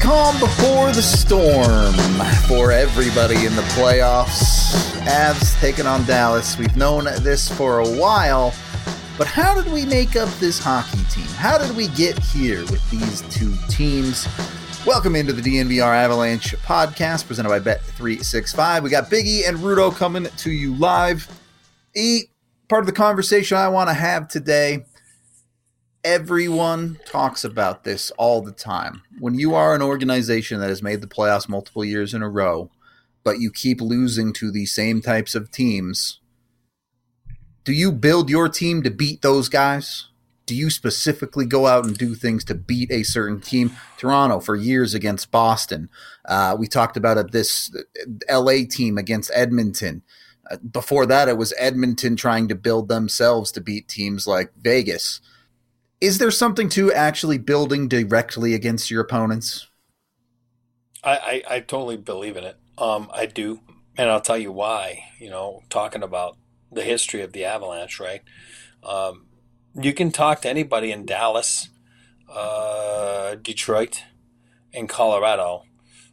calm before the storm for everybody in the playoffs. Avs taking on Dallas. We've known this for a while, but how did we make up this hockey team? How did we get here with these two teams? Welcome into the DNVR Avalanche podcast presented by Bet365. We got Biggie and Rudo coming to you live. Part of the conversation I want to have today. Everyone talks about this all the time. When you are an organization that has made the playoffs multiple years in a row, but you keep losing to the same types of teams, do you build your team to beat those guys? Do you specifically go out and do things to beat a certain team? Toronto for years against Boston. We talked about this LA team against Edmonton. Before that, it was Edmonton trying to build themselves to beat teams like Vegas. Is there something to actually building directly against your opponents? I totally believe in it. I do. And I'll tell you why. Talking about the history of the Avalanche, right? You can talk to anybody in Dallas, Detroit, and Colorado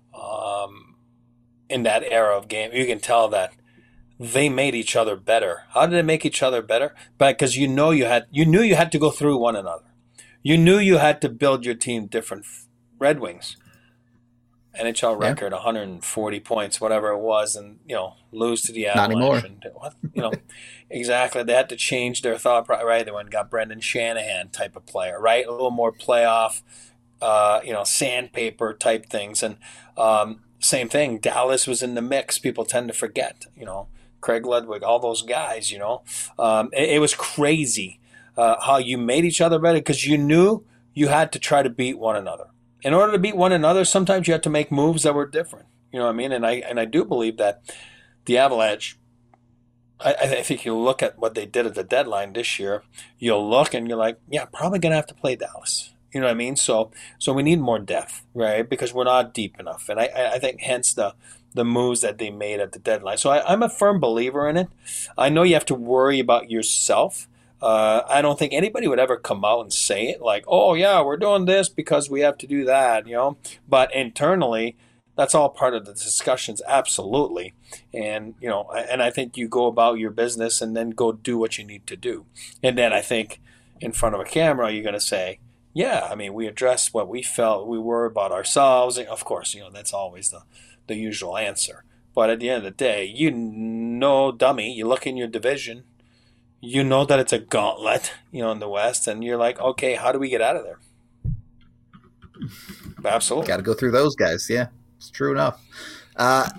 in that era of game. You can tell that they made each other better. How did they make each other better? Because you knew you had to go through one another. You knew you had to build your team different. Red Wings, NHL record, 140 points, whatever it was, and lose to the Avalanche. Not anymore. Exactly. They had to change their thought. Right, they went and got Brendan Shanahan type of player. Right, a little more playoff, sandpaper type things, and same thing. Dallas was in the mix. People tend to forget. Craig Ludwig, all those guys, it was crazy how you made each other better because you knew you had to try to beat one another. In order to beat one another, sometimes you have to make moves that were different. You know what I mean? And I do believe that the Avalanche, I think you look at what they did at the deadline this year, you'll look and you're like, yeah, probably going to have to play Dallas. You know what I mean? So we need more depth, right? Because we're not deep enough. And I think hence the moves that they made at the deadline. So I'm a firm believer in it. I know you have to worry about yourself. I don't think anybody would ever come out and say it like, oh, yeah, we're doing this because we have to do that, But internally, that's all part of the discussions, absolutely. And, and I think you go about your business and then go do what you need to do. And then I think in front of a camera, you're going to say, yeah, we addressed what we felt we were about ourselves. And of course, that's always the usual answer. But at the end of the day, dummy, you look in your division, you know that it's a gauntlet, in the West, and you're like, okay, how do we get out of there? Absolutely. Got to go through those guys, yeah. It's true enough. A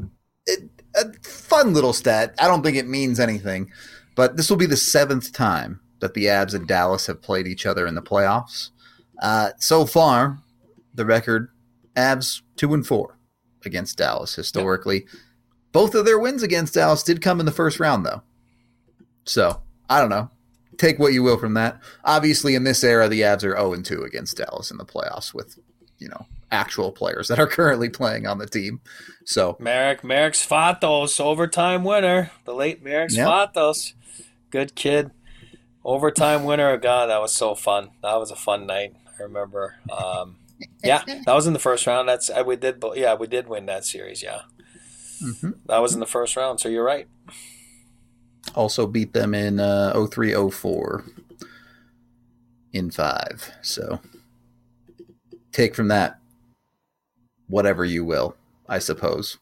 fun little stat. I don't think it means anything, but this will be the 7th time that the Avs and Dallas have played each other in the playoffs. So far, the record, Avs 2-4 against Dallas historically. Yep. Both of their wins against Dallas did come in the first round, though. So, I don't know. Take what you will from that. Obviously, in this era, the Avs are 0-2 against Dallas in the playoffs with, actual players that are currently playing on the team. So Marek Svatos, overtime winner. The late Marek Svatos. Good kid. Overtime winner. God, that was so fun. That was a fun night. I remember. That was in the first round. We did win that series. Yeah, That was in the first round. So you're right. Also beat them in 03-04 in 5. So take from that whatever you will, I suppose.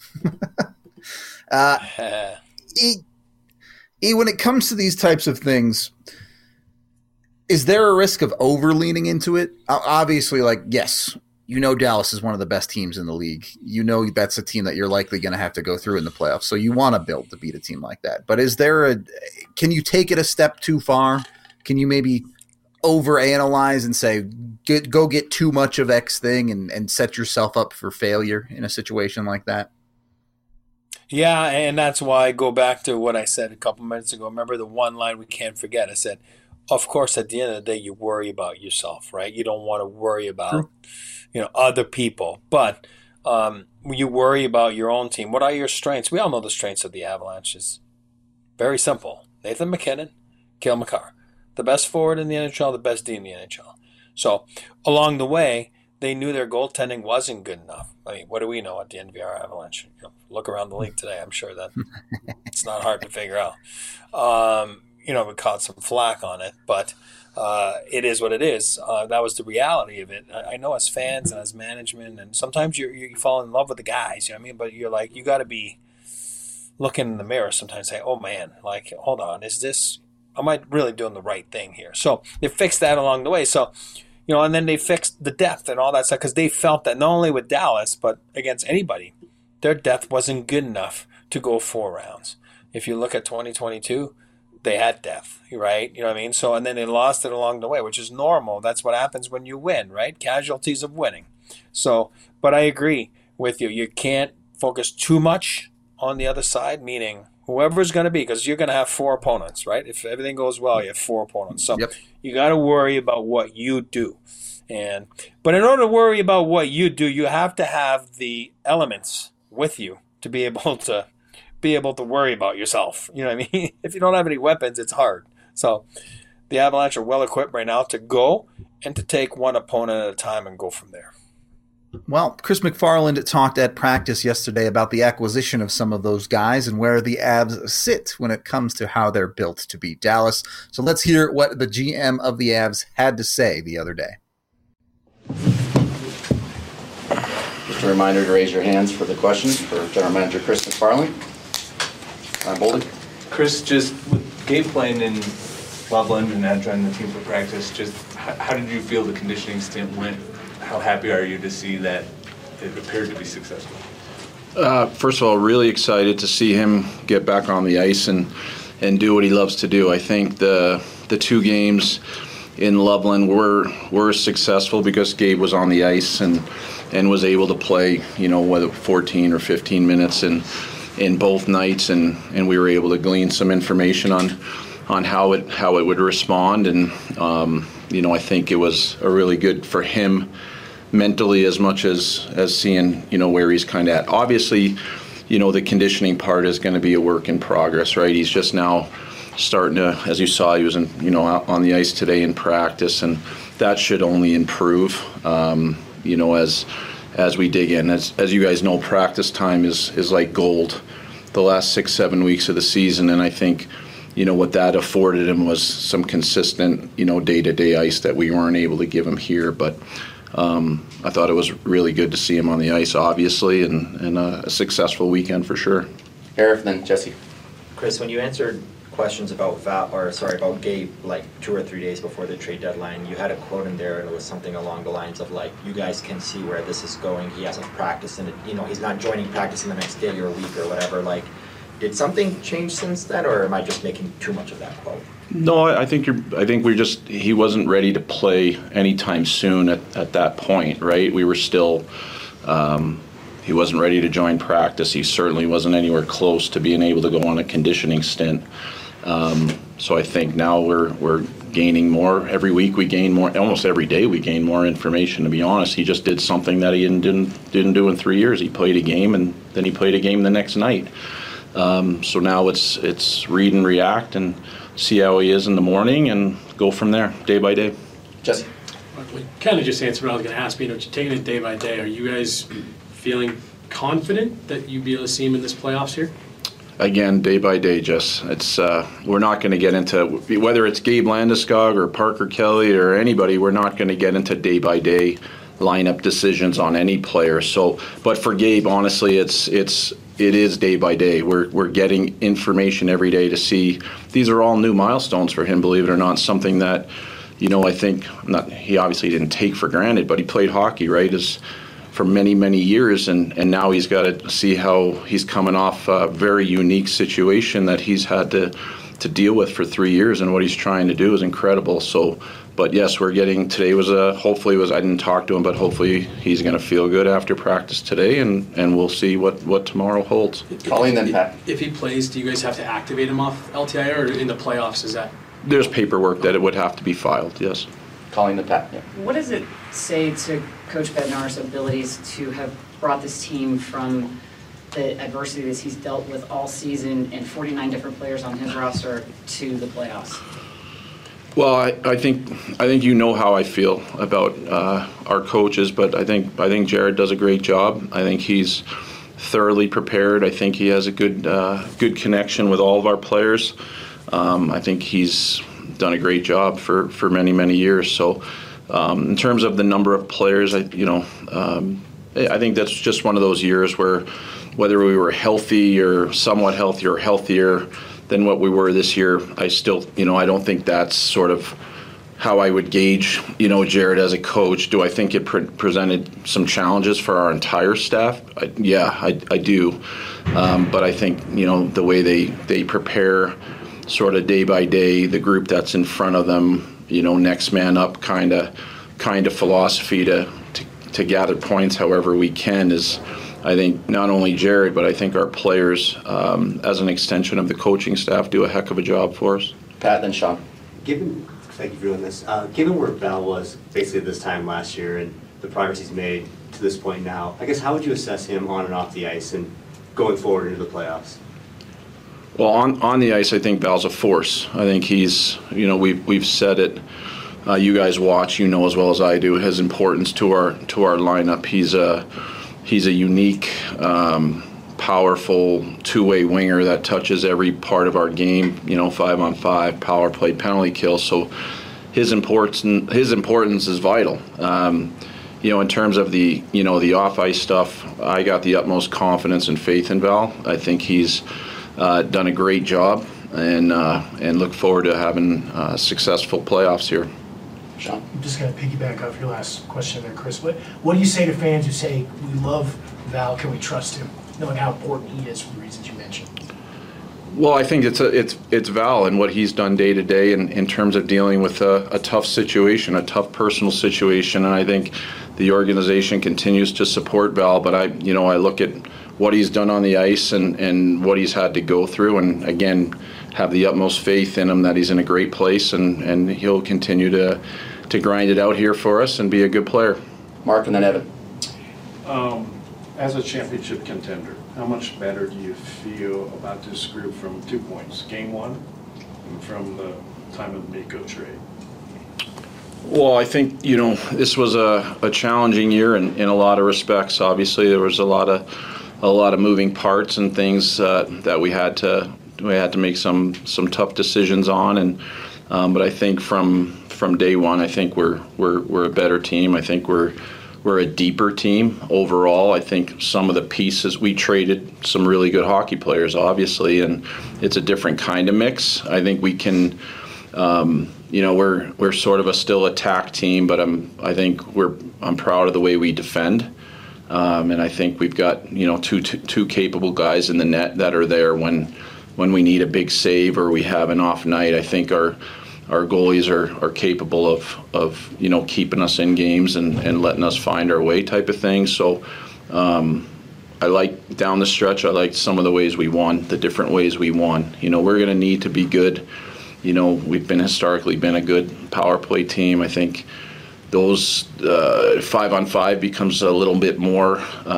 When it comes to these types of things, is there a risk of over-leaning into it? Obviously, yes, Dallas is one of the best teams in the league. That's a team that you're likely going to have to go through in the playoffs, so you want to build to beat a team like that. But can you take it a step too far? Can you maybe overanalyze and say, go get too much of X thing and set yourself up for failure in a situation like that? Yeah, and that's why I go back to what I said a couple minutes ago. Remember the one line we can't forget. I said, of course, at the end of the day, you worry about yourself, right? You don't want to worry about other people. But you worry about your own team. What are your strengths? We all know the strengths of the Avalanche is very simple. Nathan MacKinnon, Cale Makar. The best forward in the NHL, the best D in the NHL. So along the way, they knew their goaltending wasn't good enough. I mean, what do we know at the NVR Avalanche? Look around the league today. I'm sure that it's not hard to figure out. We caught some flack on it, but it is what it is. That was the reality of it. I know as fans and as management, and sometimes you fall in love with the guys, you know what I mean? But you're like, you got to be looking in the mirror sometimes and say, oh man, like, hold on, am I really doing the right thing here? So they fixed that along the way. So, and then they fixed the depth and all that stuff because they felt that not only with Dallas, but against anybody, their depth wasn't good enough to go 4 rounds. If you look at 2022, they had depth, right? You know what I mean? So, and then they lost it along the way, which is normal. That's what happens when you win, right? Casualties of winning. So, but I agree with you. You can't focus too much on the other side, meaning whoever's going to be, because you're going to have 4 opponents, right? If everything goes well, you have 4 opponents. So you got to worry about what you do. But in order to worry about what you do, you have to have the elements with you to be able to worry about yourself. You know what I mean? If you don't have any weapons, it's hard. So the Avalanche are well equipped right now to go and to take one opponent at a time and go from there. Well, Chris McFarland talked at practice yesterday about the acquisition of some of those guys and where the Avs sit when it comes to how they're built to beat Dallas. So let's hear what the GM of the Avs had to say the other day. Just a reminder to raise your hands for the questions for General Manager Chris McFarland. Boldy. Chris, just with Gabe playing in Loveland and not joining the team for practice, just how did you feel the conditioning stint went? How happy are you to see that it appeared to be successful? First of all, really excited to see him get back on the ice and do what he loves to do. I think the 2 games in Loveland were successful because Gabe was on the ice and was able to play, whether 14 or 15 minutes in both nights, and we were able to glean some information on how it would respond, and I think it was a really good for him mentally as much as seeing where he's kind of at. Obviously, the conditioning part is going to be a work in progress, right? He's just now starting to, as you saw, he was out on the ice today in practice, and that should only improve as we dig in. As you guys know, practice time is like gold the last 6-7 weeks of the season, and I think what that afforded him was some consistent day-to-day ice that we weren't able to give him here. But I thought it was really good to see him on the ice, obviously, and a successful weekend for sure. Eric, then Jesse. Chris, when you answered questions about Gabe like 2 or 3 days before the trade deadline, you had a quote in there, and it was something along the lines of like, you guys can see where this is going. He hasn't practiced, and he's not joining practice in the next day or week or whatever. Like, did something change since then, or am I just making too much of that quote? No, I think he wasn't ready to play anytime soon at that point, right? We were still, he wasn't ready to join practice. He certainly wasn't anywhere close to being able to go on a conditioning stint. So I think now we're gaining more. Every week we gain more, almost every day we gain more information, to be honest. He just did something that he didn't do in 3 years. He played a game, and then he played a game the next night. So now it's read and react and see how he is in the morning and go from there, day by day. Jesse. We kind of just answered what I was going to ask, but you're taking it day by day. Are you guys feeling confident that you'll be able to see him in this playoffs here? Again, day by day, Jess. It's we're not going to get into whether it's Gabe Landeskog or Parker Kelly or anybody. We're not going to get into day by day lineup decisions on any player. So, but for Gabe, honestly, it is day by day. We're getting information every day to see. These are all new milestones for him, believe it or not. Something that, I think he obviously didn't take for granted, but he played hockey, right, for many, many years, and now he's got to see how he's coming off a very unique situation that he's had to deal with for 3 years, and what he's trying to do is incredible. So, but yes, today was I didn't talk to him, but hopefully he's going to feel good after practice today, and we'll see what tomorrow holds. Colleen, then Pat. If he plays, do you guys have to activate him off LTIR, or in the playoffs is that? There's paperwork that it would have to be filed, yes. Colleen, then Pat. Yeah. What does it say to Coach Bednar's abilities to have brought this team from the adversity that he's dealt with all season and 49 different players on his roster to the playoffs? Well, I think you know how I feel about our coaches, but I think Jared does a great job. I think he's thoroughly prepared. I think he has a good connection with all of our players. I think he's done a great job for many years. So, in terms of the number of players, I think that's just one of those years where whether we were healthy or somewhat healthy or healthier than what we were this year, I still, I don't think that's sort of how I would gauge, Jared as a coach. Do I think it presented some challenges for our entire staff? I do. But I think, the way they prepare sort of day by day, the group that's in front of them, next man up kind of philosophy to gather points however we can is, I think, not only Jared, but I think our players, as an extension of the coaching staff, do a heck of a job for us. Pat, then Sean. Thank you for doing this. Given where Val was basically this time last year and the progress he's made to this point now, I guess how would you assess him on and off the ice and going forward into the playoffs? Well, on the ice, I think Val's a force. I think he's, we've said it. You guys watch, as well as I do, his importance to our lineup. He's a unique, powerful two-way winger that touches every part of our game. 5-on-5, power play, penalty kill. So his importance is vital. In terms of the off-ice stuff, I got the utmost confidence and faith in Val. I think he's done a great job, and look forward to having successful playoffs here. Sean? I'm just going to piggyback off your last question there, Chris. What do you say to fans who say, we love Val, can we trust him, knowing how important he is for the reasons you mentioned? Well, I think it's Val and what he's done day to day in terms of dealing with a tough situation, a tough personal situation, and I think the organization continues to support Val. But I look at what he's done on the ice and what he's had to go through, and again, have the utmost faith in him that he's in a great place, and he'll continue to grind it out here for us and be a good player. Mark and then Evan. As a championship contender, how much better do you feel about this group from 2 points? Game one and from the time of the Mikko trade? Well, I think, this was a challenging year in a lot of respects. Obviously, there was a lot of moving parts and things that we had to make some tough decisions on, but I think from day one, I think we're a better team. I think we're a deeper team overall. I think some of the pieces, we traded some really good hockey players, obviously, and it's a different kind of mix. I think we can, we're sort of a still attack team, but I'm proud of the way we defend. And I think we've got two capable guys in the net that are there when we need a big save or we have an off night. I think our goalies are capable of keeping us in games and letting us find our way type of thing. So I like down the stretch. I like some of the ways we won, the different ways we won. We're going to need to be good. We've historically been a good power play team. I think those 5-on-5 becomes a little bit more.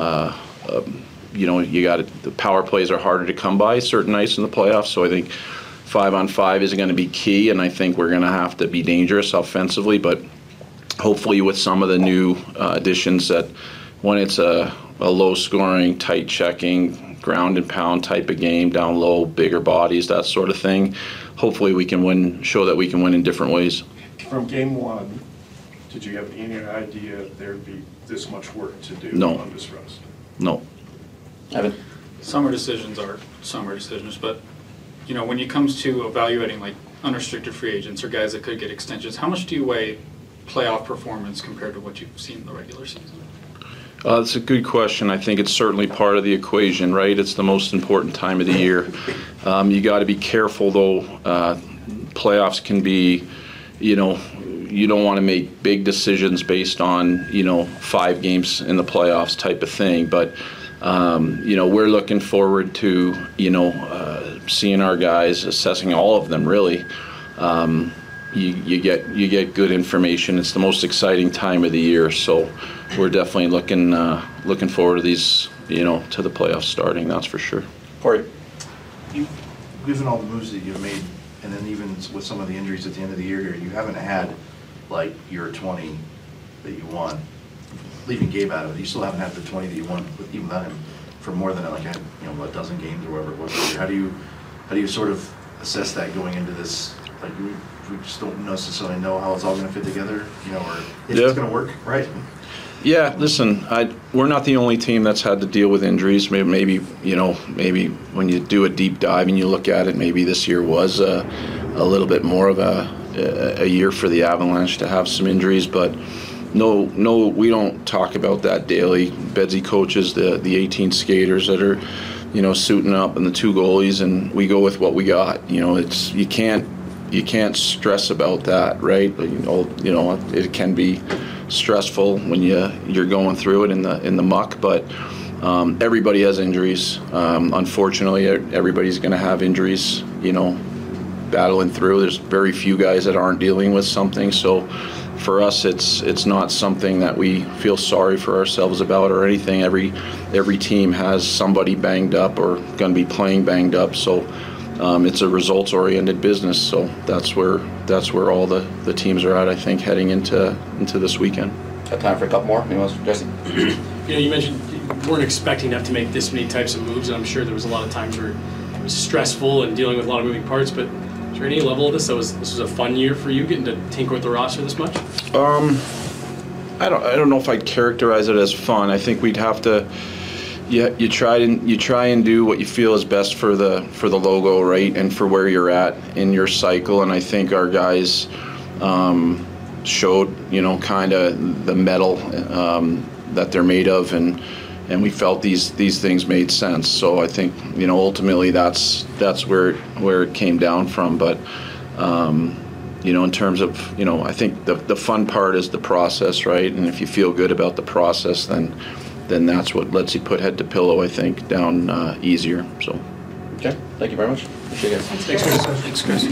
The power plays are harder to come by certain nights in the playoffs. So I think 5-on-5 is going to be key, and I think we're going to have to be dangerous offensively. But hopefully, with some of the new additions, that when it's a low-scoring, tight-checking, ground-and-pound type of game, down low, bigger bodies, that sort of thing, hopefully we can win. Show that we can win in different ways. From game one, did you have any idea there'd be this much work to do on this roster? No. Evan? Summer decisions are summer decisions, but when it comes to evaluating like unrestricted free agents or guys that could get extensions, how much do you weigh playoff performance compared to what you've seen in the regular season? That's a good question. I think it's certainly part of the equation, right? It's the most important time of the year. You got to be careful, though. Playoffs can be, you don't want to make big decisions based on, 5 games in the playoffs type of thing. But, we're looking forward to, seeing our guys, assessing all of them, really. You get good information. It's the most exciting time of the year, so we're definitely looking forward to these, to the playoffs starting. That's for sure. Corey? Given all the moves that you've made and then even with some of the injuries at the end of the year here, you haven't had like your 20 that you won. Leaving Gabe out of it, you still haven't had the 20 that you won with even without him for more than like a dozen games or whatever it was. How do you sort of assess that going into this? Like we just don't necessarily know how it's all going to fit together, or if it's going to work, right? Yeah, listen, we're not the only team that's had to deal with injuries. Maybe when you do a deep dive and you look at it, maybe this year was a little bit more of a year for the Avalanche to have some injuries, but no, we don't talk about that daily. Bedsy coaches the 18 skaters that are, suiting up and the 2 goalies, and we go with what we got. It's you can't stress about that, right? It can be stressful when you're going through it in the muck, but everybody has injuries. Unfortunately, everybody's going to have injuries. Battling through. There's very few guys that aren't dealing with something. So for us, it's not something that we feel sorry for ourselves about or anything. Every team has somebody banged up or going to be playing banged up. So it's a results-oriented business. So that's where all the teams are at, I think, heading into this weekend. Got time for a couple more? Anyone else? Jesse? You mentioned you weren't expecting to have to make this many types of moves, and I'm sure there was a lot of times where it was stressful and dealing with a lot of moving parts, but is there any level of this this was a fun year for you, getting to tinker with the roster this much? I don't know if I'd characterize it as fun. I think we'd have to. You try and do what you feel is best for the logo, right, and for where you're at in your cycle. And I think our guys showed kind of the metal that they're made of, and we felt these things made sense. So I think ultimately that's where it came down from. But in terms of I think the fun part is the process, right? And if you feel good about the process, then that's what lets you put head to pillow, I think, down easier. So. Okay, thank you very much. Appreciate it. Thanks, Chris.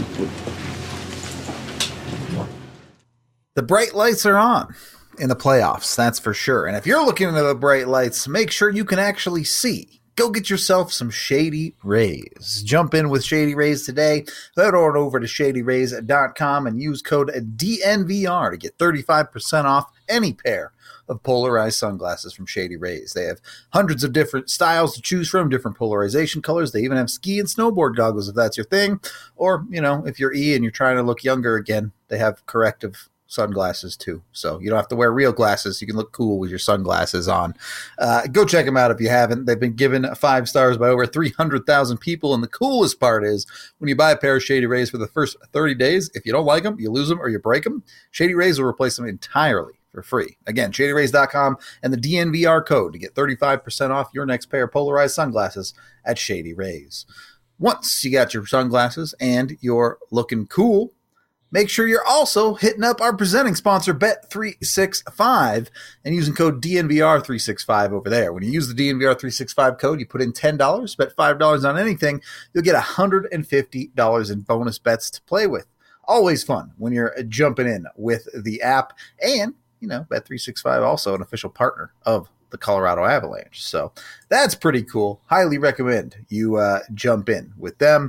The bright lights are on in the playoffs, that's for sure. And if you're looking into the bright lights, make sure you can actually see. Go get yourself some Shady Rays. Jump in with Shady Rays today. Head on over to shadyrays.com and use code DNVR to get 35% off any pair of polarized sunglasses from Shady Rays. They have hundreds of different styles to choose from, different polarization colors. They even have ski and snowboard goggles if that's your thing. Or, if you're E and you're trying to look younger again, they have corrective sunglasses too. So you don't have to wear real glasses. You can look cool with your sunglasses on. Go check them out if you haven't. They've been given 5 stars by over 300,000 people. And the coolest part is when you buy a pair of Shady Rays for the first 30 days, if you don't like them, you lose them or you break them, Shady Rays will replace them entirely for free. Again, shadyrays.com and the DNVR code to get 35% off your next pair of polarized sunglasses at Shady Rays. Once you got your sunglasses and you're looking cool, make sure you're also hitting up our presenting sponsor, Bet365, and using code DNVR365 over there. When you use the DNVR365 code, you put in $10, bet $5 on anything, you'll get $150 in bonus bets to play with. Always fun when you're jumping in with the app. And, Bet365 also an official partner of the Colorado Avalanche. So that's pretty cool. Highly recommend you jump in with them.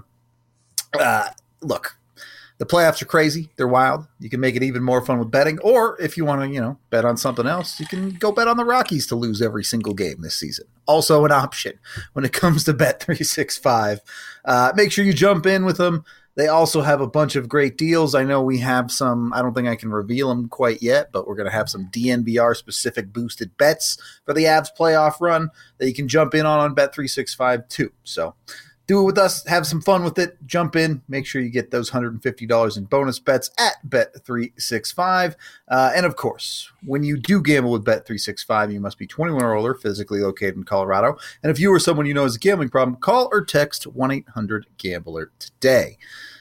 Look. The playoffs are crazy. They're wild. You can make it even more fun with betting. Or if you want to, bet on something else, you can go bet on the Rockies to lose every single game this season. Also an option when it comes to Bet365. Make sure you jump in with them. They also have a bunch of great deals. I know we have some, I don't think I can reveal them quite yet, but we're going to have some DNVR-specific boosted bets for the Avs playoff run that you can jump in on Bet365 too. So do it with us. Have some fun with it. Jump in. Make sure you get those $150 in bonus bets at Bet365. And, of course, when you do gamble with Bet365, you must be 21 or older, physically located in Colorado. And if you or someone you know has a gambling problem, call or text 1-800-GAMBLER today.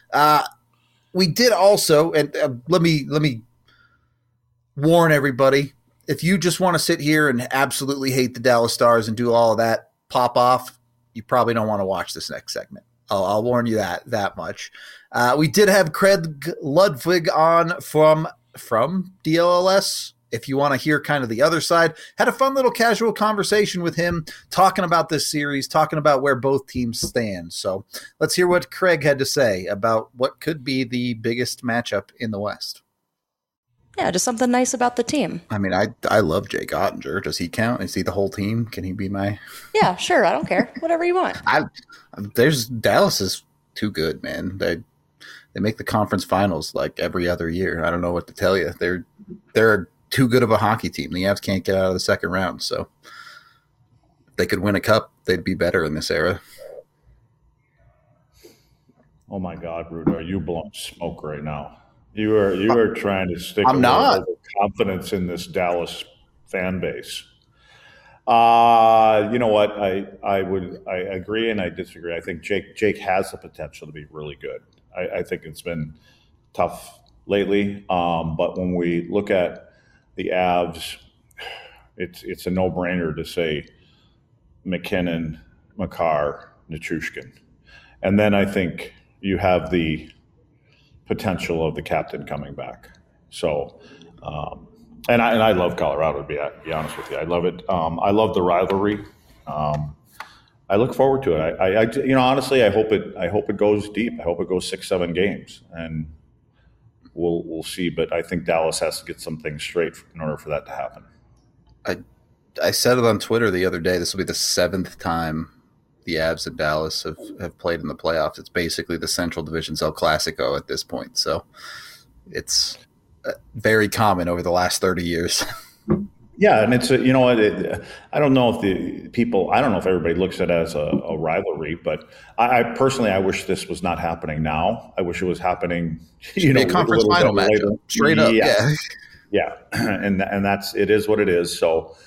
We did also, and let me warn everybody, if you just want to sit here and absolutely hate the Dallas Stars and do all of that, pop off, you probably don't want to watch this next segment. I'll warn you that much. We did have Craig Ludwig on from DLLS. if you want to hear kind of the other side, had a fun little casual conversation with him talking about this series, talking about where both teams stand. So let's hear what Craig had to say about what could be the biggest matchup in the West. Yeah, just something nice about the team. I mean, I love Jake Ottinger. Does he count? Is he the whole team? Can he be my... Yeah, sure. I don't care. Whatever you want. Dallas is too good, man. They make the conference finals like every other year. I don't know what to tell you. They're too good of a hockey team. The Avs can't get out of the second round, so if they could win a cup, they'd be better in this era. Oh my God, Rudo, are you blowing smoke right now? You are trying to stick I'm not confidence in this Dallas fan base. You know what? I agree and I disagree. I think Jake has the potential to be really good. I think it's been tough lately, but when we look at the Avs, it's a no-brainer to say McKinnon, Makar, Nichushkin, and then I think you have the potential of the captain coming back. So, and I love Colorado, to be honest with you. I love it. I love the rivalry. I look forward to it. Honestly, I hope it goes deep. I hope it goes 6-7 games, and we'll see. But I think Dallas has to get some things straight in order for that to happen. I said it on Twitter the other day. This will be the 7th time the Avs and Dallas have played in the playoffs. It's basically the Central Division's El Clasico at this point. So it's very common over the last 30 years. Yeah, and it's I don't know if everybody looks at it as a rivalry, but I personally wish this was not happening now. I wish it was happening. Be a conference final match, straight up. Yeah, and it is what it is. So,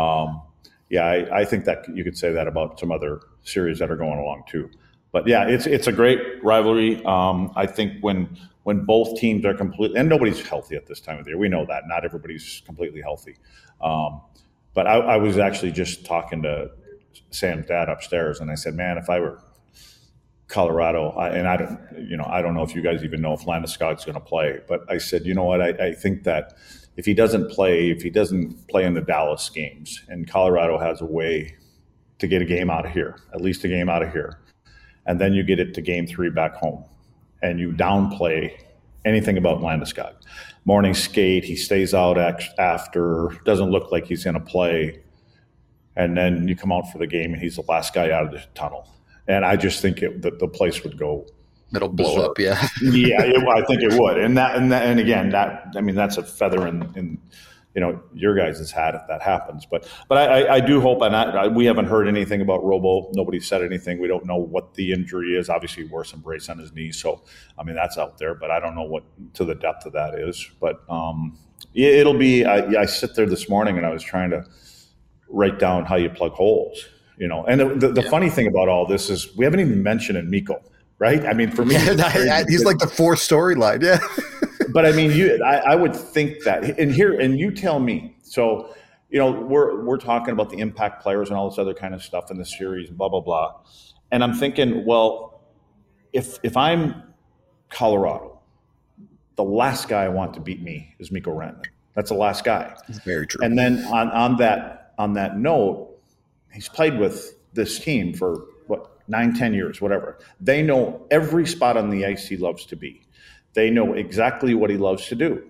I think that you could say that about some other series that are going along too. But yeah, it's a great rivalry. I think when both teams are completely, and nobody's healthy at this time of the year. We know that not everybody's completely healthy. But I was actually just talking to Sam's dad upstairs, and I said, man, if I were Colorado, I don't know if you guys even know if Landeskog's going to play, but I said, you know what, I think that if he doesn't play in the Dallas games, and Colorado has a way to get a game out of here, at least a game out of here, and then you get it to game 3 back home, and you downplay anything about Landeskog. Morning skate, he stays out after, doesn't look like he's going to play, and then you come out for the game and he's the last guy out of the tunnel. And I just think the place would go. It'll blow up, yeah. I think it would. And again, that's a feather in your guys' hat if that happens. But I do hope, and we haven't heard anything about Robo. Nobody said anything. We don't know what the injury is. Obviously, he wore some brace on his knee, so that's out there. But I don't know what to the depth of that is. But it'll be. I sit there this morning and I was trying to write down how you plug holes. And the funny thing about all this is we haven't even mentioned Mikko, right? For me, he's like the fourth storyline. Yeah. But I would think that, and you tell me. So, we're talking about the impact players and all this other kind of stuff in the series, blah blah blah, and I'm thinking, well, if I'm Colorado, the last guy I want to beat me is Mikko Rantanen. That's the last guy. That's very true. And then on that note, he's played with this team for 9-10 years, whatever. They know every spot on the ice he loves to be. They know exactly what he loves to do.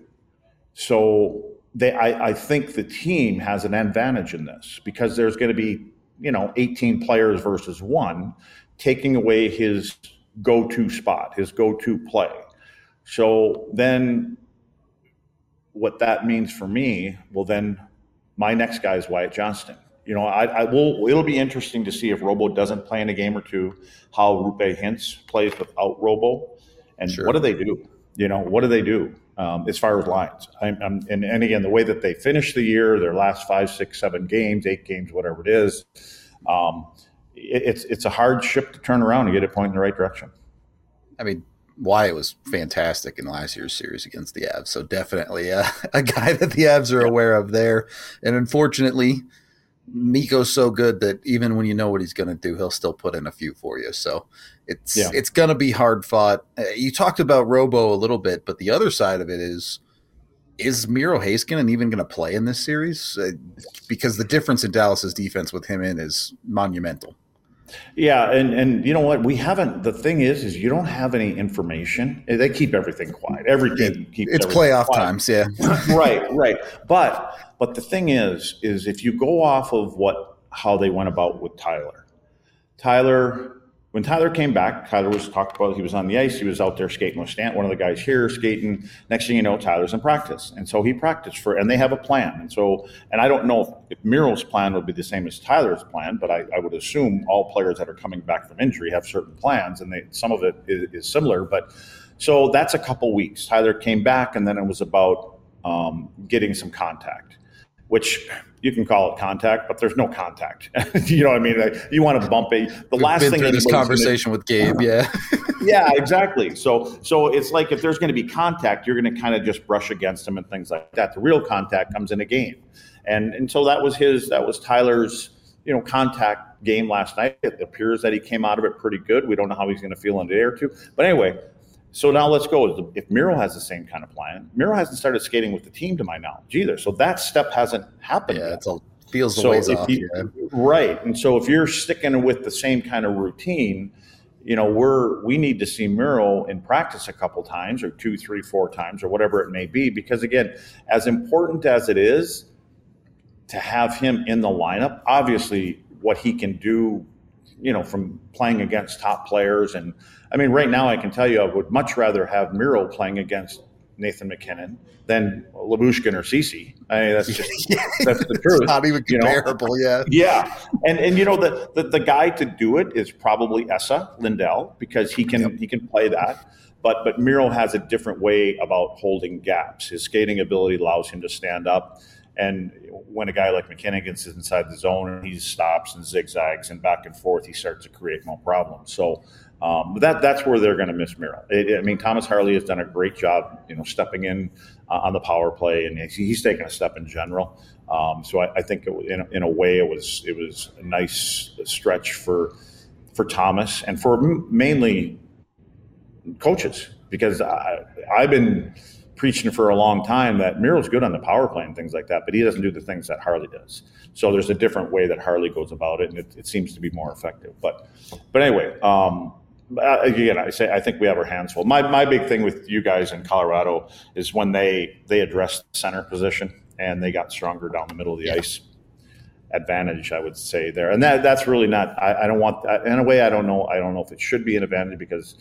So I think the team has an advantage in this because there's going to be, 18 players versus 1, taking away his go-to spot, his go-to play. So then what that means for me, well, then my next guy is Wyatt Johnston. It'll be interesting to see if Robo doesn't play in a game or two, how Roope Hintz plays without Robo. And What do they do? What do they do as far as lines? And again, the way that they finish the year, their last 5, 6, 7 games, 8 games, whatever it is, it's a hard ship to turn around and get it pointing in the right direction. Wyatt was fantastic in last year's series against the Avs, so definitely a guy that the Avs are aware of there. And unfortunately, Mikko's so good that even when you know what he's going to do, he'll still put in a few for you. So it's going to be hard fought. You talked about Robo a little bit, but the other side of it is is Miro Heiskanen even going to play in this series? Because the difference in Dallas's defense with him in is monumental. Yeah, and you know what? We haven't. The thing is you don't have any information. They keep everything quiet. Every team keeps. It's playoff times, yeah. right. But the thing is if you go off of how they went about with Tyler. When Tyler came back, Tyler was talked about, he was on the ice, he was out there skating with Stant, one of the guys here skating. Next thing you know, Tyler's in practice. And so he practiced and they have a plan. And I don't know if Miro's plan would be the same as Tyler's plan, but I would assume all players that are coming back from injury have certain plans, and some of it is similar. But so that's a couple weeks. Tyler came back, and then it was about getting some contact, which you can call it contact, but there's no contact. You know what I mean? Like, you want to bump it. The We've last been thing through this conversation with Gabe, yeah. Yeah, exactly. So it's like if there's going to be contact, you're going to kind of just brush against him and things like that. The real contact comes in a game, and so that was Tyler's contact game last night. It appears that he came out of it pretty good. We don't know how he's going to feel in a day or two, but anyway. So now let's go. If Miro has the same kind of plan, Miro hasn't started skating with the team to my knowledge either. So that step hasn't happened yet. Feels the ways off. Right. And so if you're sticking with the same kind of routine, we need to see Miro in practice a couple times, or 2, 3, 4 times, or whatever it may be. Because again, as important as it is to have him in the lineup, obviously what he can do, from playing against top players. And I mean, right now I can tell you I would much rather have Miro playing against Nathan MacKinnon than Lyubushkin or Ceci. I mean, that's just that's the truth. Not even comparable, yeah. Yeah, and the guy to do it is probably Esa Lindell, because he can play that. But Miro has a different way about holding gaps. His skating ability allows him to stand up. And when a guy like MacKinnon gets inside the zone and he stops and zigzags and back and forth, he starts to create more problems. So that's where they're going to miss Miro. Thomas Harley has done a great job, stepping in on the power play, and he's taken a step in general. So I think in a way it was a nice stretch for Thomas and for mainly coaches, because I've been preaching for a long time that Miro's good on the power play and things like that, but he doesn't do the things that Harley does. So there's a different way that Harley goes about it, and it seems to be more effective. But anyway, again, I think we have our hands full. My big thing with you guys in Colorado is when they addressed the center position and they got stronger down the middle of the ice. Advantage, I would say there, and that's really not. I don't want that in a way. I don't know if it should be an advantage, because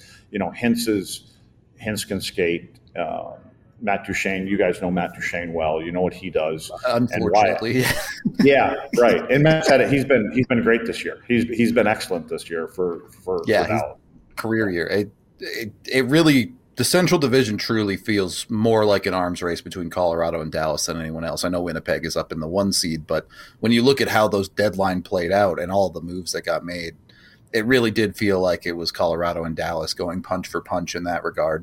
Hintz can skate. Matt Duchene, you guys know Matt Duchene well. You know what he does. Unfortunately, yeah, right. And Matt said it. He's been great this year. He's been excellent this year for Dallas. Career year. It really, the Central Division truly feels more like an arms race between Colorado and Dallas than anyone else. I know Winnipeg is up in the 1 seed, but when you look at how those deadline played out and all the moves that got made, it really did feel like it was Colorado and Dallas going punch for punch in that regard.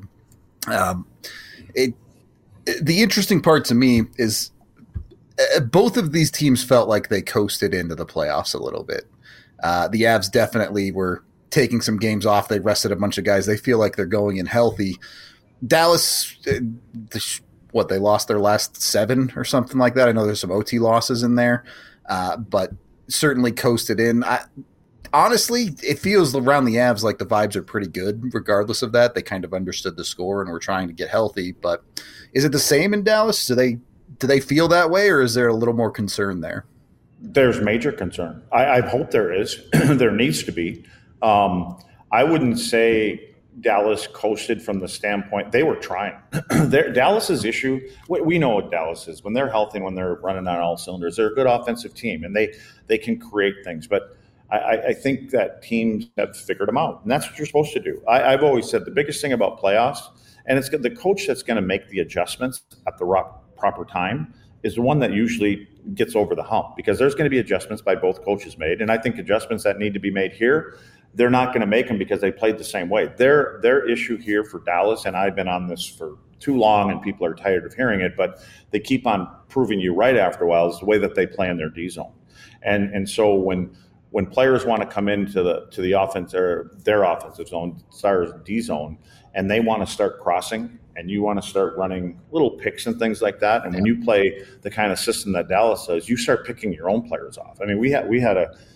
The interesting part to me is both of these teams felt like they coasted into the playoffs a little bit. The Avs definitely were taking some games off. They rested a bunch of guys. They feel like they're going in healthy. Dallas, they lost their last 7 or something like that. I know there's some OT losses in there, but certainly coasted in. Honestly, it feels around the Avs like the vibes are pretty good regardless of that. They kind of understood the score and were trying to get healthy. But is it the same in Dallas? Do they feel that way, or is there a little more concern there? There's major concern. I hope there is. There needs to be. I wouldn't say Dallas coasted from the standpoint they were trying. Dallas's issue, we know what Dallas is. When they're healthy and when they're running on all cylinders, they're a good offensive team, and they can create things. But I think that teams have figured them out, and that's what you're supposed to do. I've always said the biggest thing about playoffs, and it's the coach that's going to make the adjustments at the proper time is the one that usually gets over the hump, because there's going to be adjustments by both coaches made, and I think adjustments that need to be made here, they're not going to make them because they played the same way. Their issue here for Dallas, and I've been on this for too long and people are tired of hearing it, but they keep on proving you right after a while, is the way that they play in their D zone. And so when players want to come into the offense or their offensive zone, Stars D zone, and they want to start crossing and you want to start running little picks and things like that, and when you play the kind of system that Dallas does, you start picking your own players off. I mean, we had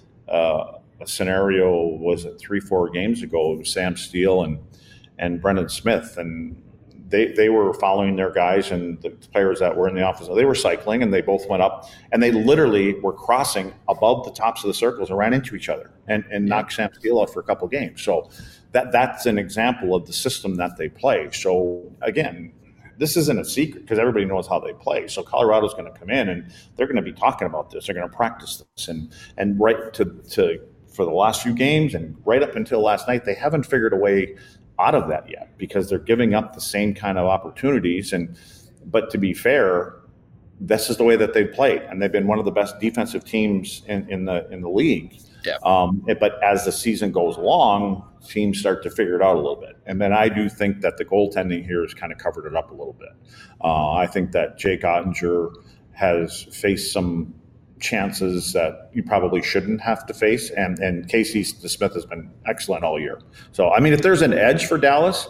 a scenario, was it 3-4 games ago? It was Sam Steele and Brendan Smith, and they were following their guys, and the players that were in the office, they were cycling, and they both went up, and they literally were crossing above the tops of the circles and ran into each other and knocked Sam Steele out for a couple of games. So that's an example of the system that they play. So again, this isn't a secret because everybody knows how they play. So Colorado's going to come in and they're going to be talking about this. They're going to practice this, and right to for the last few games and right up until last night, they haven't figured a way out of that yet because they're giving up the same kind of opportunities. But to be fair, this is the way that they've played, and they've been one of the best defensive teams in the league. Yeah. But as the season goes along, teams start to figure it out a little bit. And then I do think that the goaltending here has kind of covered it up a little bit. I think that Jake Ottinger has faced some chances that you probably shouldn't have to face, and Casey Smith has been excellent all year. So I mean, if there's an edge for Dallas,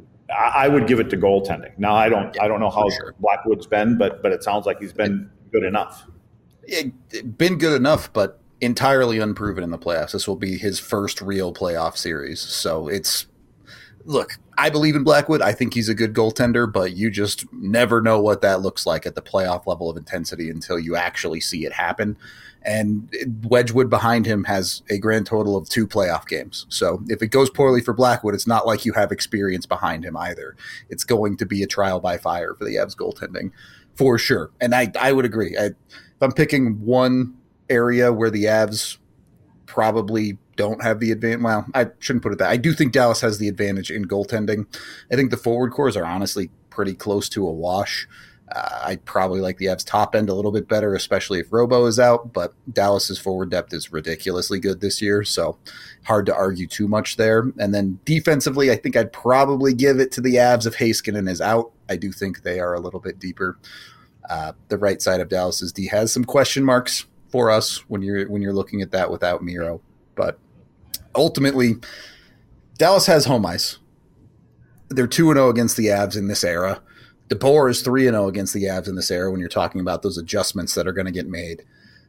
I would give it to goaltending. Now I don't know how Blackwood's been, but it sounds like he's been good enough. Been good enough, but entirely unproven in the playoffs. This will be his first real playoff series. So look, I believe in Blackwood. I think he's a good goaltender, but you just never know what that looks like at the playoff level of intensity until you actually see it happen. And Wedgwood behind him has a grand total of 2 playoff games. So if it goes poorly for Blackwood, it's not like you have experience behind him either. It's going to be a trial by fire for the Avs goaltending for sure. And I would agree. If I'm picking one area where the Avs probably don't have the advantage. Well, I shouldn't put it that. I do think Dallas has the advantage in goaltending. I think the forward cores are honestly pretty close to a wash. I'd probably like the Avs top end a little bit better, especially if Robo is out, but Dallas's forward depth is ridiculously good this year, so hard to argue too much there. And then defensively, I think I'd probably give it to the Avs if Heiskanen is out. I do think they are a little bit deeper. The right side of Dallas's D has some question marks for us when you're looking at that without Miro. But ultimately, Dallas has home ice. They're 2-0 against the Avs in this era. DeBoer is 3-0 against the Avs in this era when you're talking about those adjustments that are going to get made.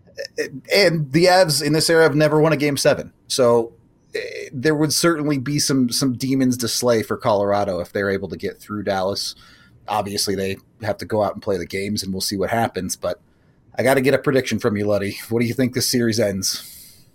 And the Avs in this era have never won a Game 7. So there would certainly be some demons to slay for Colorado if they're able to get through Dallas. Obviously, they have to go out and play the games, and we'll see what happens. But I got to get a prediction from you, Luddy. What do you think this series ends?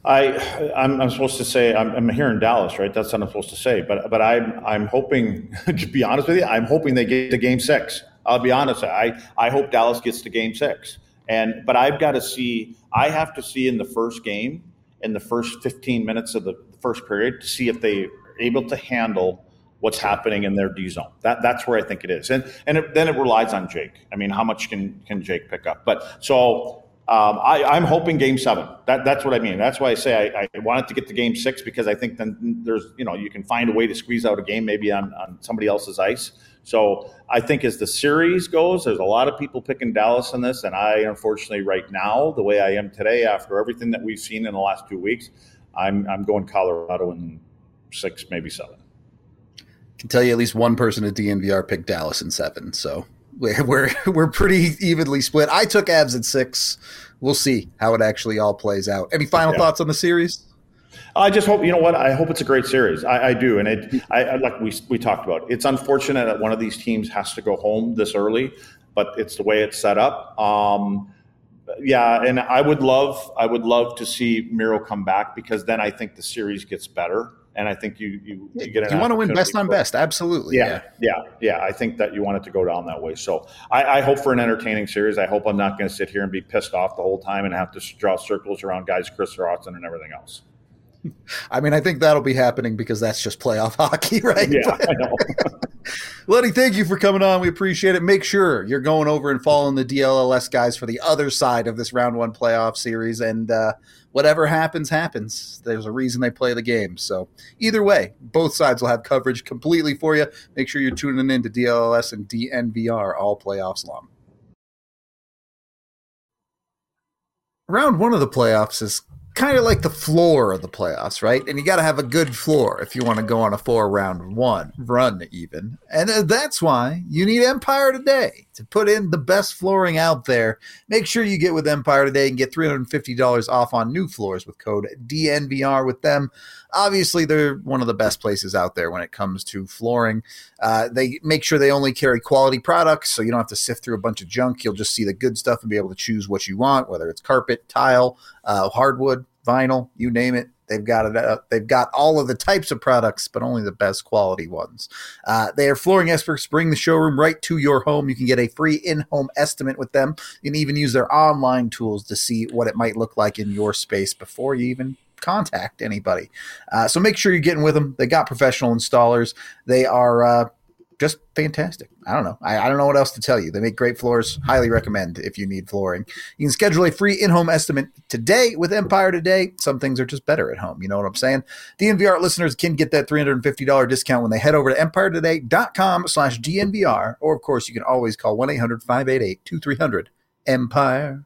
I'm supposed to say I'm here in Dallas, right? That's what I'm supposed to say. But I'm hoping, to be honest with you, I'm hoping they get to Game 6. I'll be honest. I hope Dallas gets to Game 6. But I have to see in the first game, in the first 15 minutes of the first period, to see if they're able to handle what's happening in their D zone. That's where I think it is. And then it relies on Jake. I mean, how much can Jake pick up? But so I'm hoping Game 7. That's what I mean. That's why I say I want it to get to Game 6, because I think then there's, you can find a way to squeeze out a game maybe on somebody else's ice. So I think as the series goes, there's a lot of people picking Dallas in this. And I, unfortunately, right now, the way I am today, after everything that we've seen in the last 2 weeks, I'm going Colorado in 6, maybe 7. I can tell you at least one person at DNVR picked Dallas in 7. So we're pretty evenly split. I took Avs at 6. We'll see how it actually all plays out. Any final thoughts on the series? I just hope, I hope it's a great series. I do. And like we talked about, it's unfortunate that one of these teams has to go home this early, but it's the way it's set up. And I would love to see Miro come back, because then I think the series gets better. And I think you get an. You want to win best on best, absolutely. Yeah. I think that you want it to go down that way. So I hope for an entertaining series. I hope I'm not going to sit here and be pissed off the whole time and have to draw circles around guys, Chris Rotzen and everything else. I mean, I think that'll be happening because that's just playoff hockey, right? Yeah, I know. Luddy, thank you for coming on. We appreciate it. Make sure you're going over and following the DLLS guys for the other side of this round 1 playoff series. And whatever happens. There's a reason they play the game. So either way, both sides will have coverage completely for you. Make sure you're tuning in to DLLS and DNVR all playoffs long. Round 1 of the playoffs is kind of like the floor of the playoffs, right? And you got to have a good floor if you want to go on a 4-round run even. And that's why you need Empire Today to put in the best flooring out there. Make sure you get with Empire Today and get $350 off on new floors with code DNVR with them. Obviously, they're one of the best places out there when it comes to flooring. They make sure they only carry quality products, so you don't have to sift through a bunch of junk. You'll just see the good stuff and be able to choose what you want, whether it's carpet, tile, hardwood, vinyl, you name it. They've got it. They've got all of the types of products, but only the best quality ones. They are flooring experts. Bring the showroom right to your home. You can get a free in-home estimate with them. You can even use their online tools to see what it might look like in your space before you even contact anybody. So make sure you're getting with them. They got professional installers. They are just fantastic. I don't know. I don't know what else to tell you. They make great floors. Highly recommend if you need flooring. You can schedule a free in-home estimate today with Empire Today. Some things are just better at home. You know what I'm saying? DNVR listeners can get that $350 discount when they head over to empiretoday.com/DNVR. Or, of course, you can always call 1-800-588-2300-EMPIRE.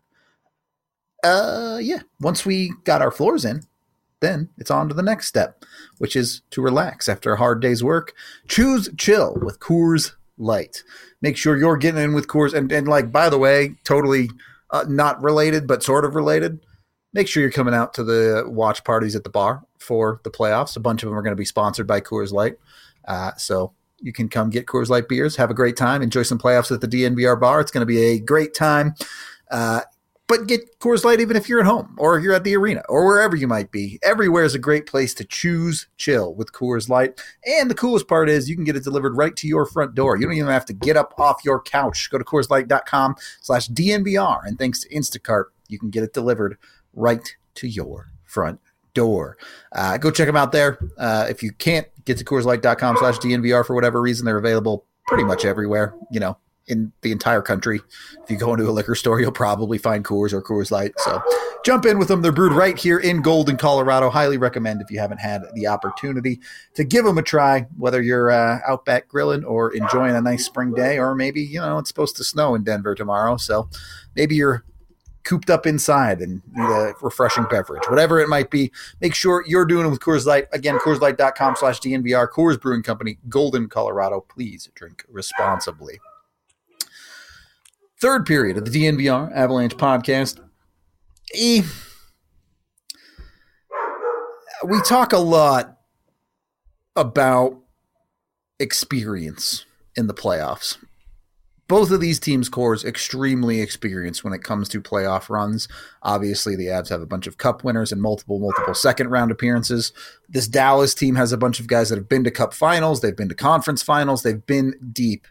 Once we got our floors in, then it's on to the next step, which is to relax after a hard day's work. Choose chill with Coors Light. Make sure you're getting in with Coors. And like, by the way, totally not related, but sort of related. Make sure you're coming out to the watch parties at the bar for the playoffs. A bunch of them are going to be sponsored by Coors Light. So you can come get Coors Light beers, have a great time, enjoy some playoffs at the DNVR bar. It's going to be a great time. But get Coors Light even if you're at home or you're at the arena or wherever you might be. Everywhere is a great place to choose chill with Coors Light. And the coolest part is you can get it delivered right to your front door. You don't even have to get up off your couch. Go to CoorsLight.com/DNVR. And thanks to Instacart, you can get it delivered right to your front door. Go check them out there. If you can't get to CoorsLight.com/DNVR for whatever reason, they're available pretty much everywhere, in the entire country. If you go into a liquor store, you'll probably find Coors or Coors Light. So jump in with them. They're brewed right here in Golden, Colorado. Highly recommend if you haven't had the opportunity to give them a try, whether you're out back grilling or enjoying a nice spring day, or maybe, it's supposed to snow in Denver tomorrow. So maybe you're cooped up inside and need a refreshing beverage, whatever it might be. Make sure you're doing it with Coors Light. Again, CoorsLight.com/DNVR, Coors Brewing Company, Golden, Colorado. Please drink responsibly. Third period of the DNVR Avalanche podcast. We talk a lot about experience in the playoffs. Both of these teams' cores extremely experienced when it comes to playoff runs. Obviously, the Avs have a bunch of cup winners and multiple second-round appearances. This Dallas team has a bunch of guys that have been to cup finals. They've been to conference finals. They've been deep.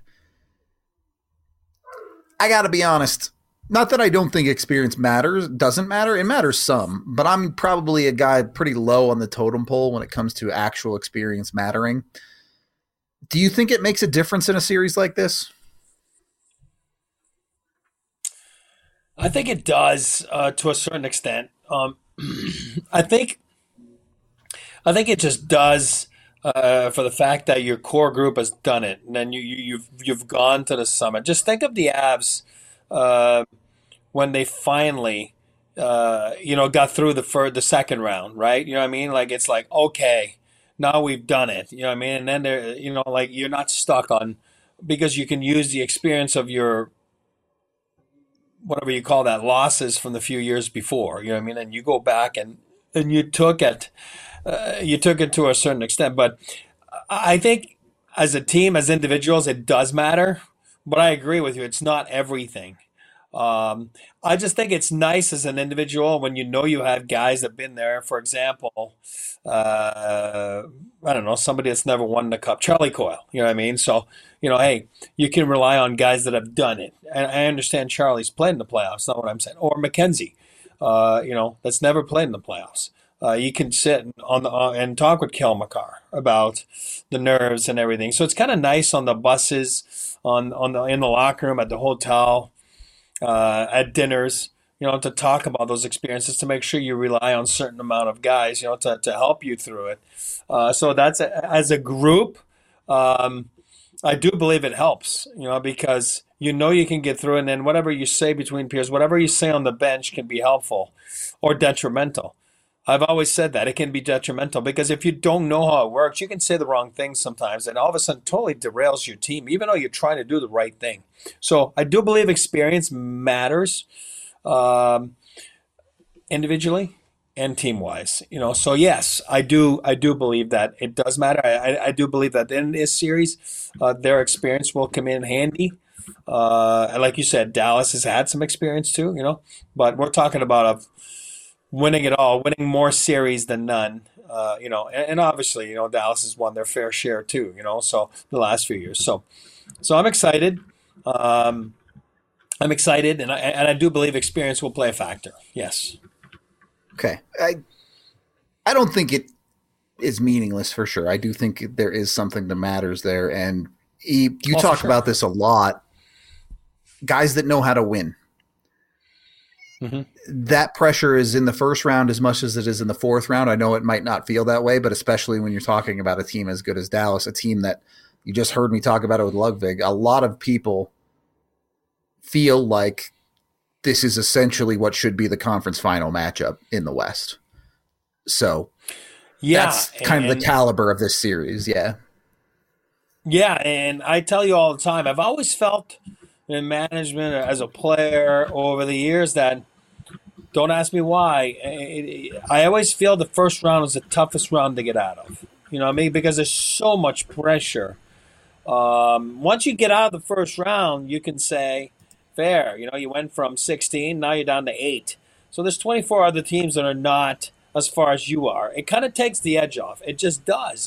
I got to be honest, not that I don't think experience doesn't matter. It matters some, but I'm probably a guy pretty low on the totem pole when it comes to actual experience mattering. Do you think it makes a difference in a series like this? I think it does to a certain extent. I think it just does for the fact that your core group has done it, and then you've gone to the summit. Just think of the Avs when they finally got through the second round, right? You know what I mean? Like, it's like, okay, now we've done it. You know what I mean? And then they're you're not stuck on, because you can use the experience of your, whatever you call that, losses from the few years before. You know what I mean? And you go back and you took it. You took it to a certain extent, but I think as a team, as individuals, it does matter. But I agree with you; it's not everything. I just think it's nice as an individual when you have guys that have been there. For example, I don't know, somebody that's never won the cup, Charlie Coyle. You know what I mean? So hey, you can rely on guys that have done it. And I understand Charlie's played in the playoffs. Not what I'm saying. Or McKenzie, that's never played in the playoffs. You can sit and talk with Kel McCarr about the nerves and everything. So it's kind of nice on the buses, in the locker room, at the hotel, at dinners, to talk about those experiences, to make sure you rely on a certain amount of guys, to help you through it. So that's as a group, I do believe it helps, because you can get through it, and then whatever you say between peers, whatever you say on the bench can be helpful or detrimental. I've always said that it can be detrimental because if you don't know how it works, you can say the wrong thing sometimes, and all of a sudden totally derails your team, even though you're trying to do the right thing. So I do believe experience matters, individually and team wise. So yes, I do believe that it does matter. I do believe that in this series, their experience will come in handy. And like you said, Dallas has had some experience too. But we're talking about winning it all, winning more series than none. And obviously, Dallas has won their fair share too. So the last few years. So I'm excited. I'm excited, and I do believe experience will play a factor. Yes. Okay. I don't think it is meaningless for sure. I do think there is something that matters there, and you talk about this a lot. Guys that know how to win. Mm-hmm. That pressure is in the first round as much as it is in the fourth round. I know it might not feel that way, but especially when you're talking about a team as good as Dallas, a team that you just heard me talk about it with Ludwig, a lot of people feel like this is essentially what should be the conference final matchup in the West. So that's kind of the caliber of this series. Yeah. Yeah. And I tell you all the time, I've always felt in management as a player over the years that, don't ask me why, I always feel the first round is the toughest round to get out of. You know what I mean? Because there's so much pressure. Once you get out of the first round, you can say, fair. You went from 16, now you're down to 8. So there's 24 other teams that are not as far as you are. It kind of takes the edge off. It just does.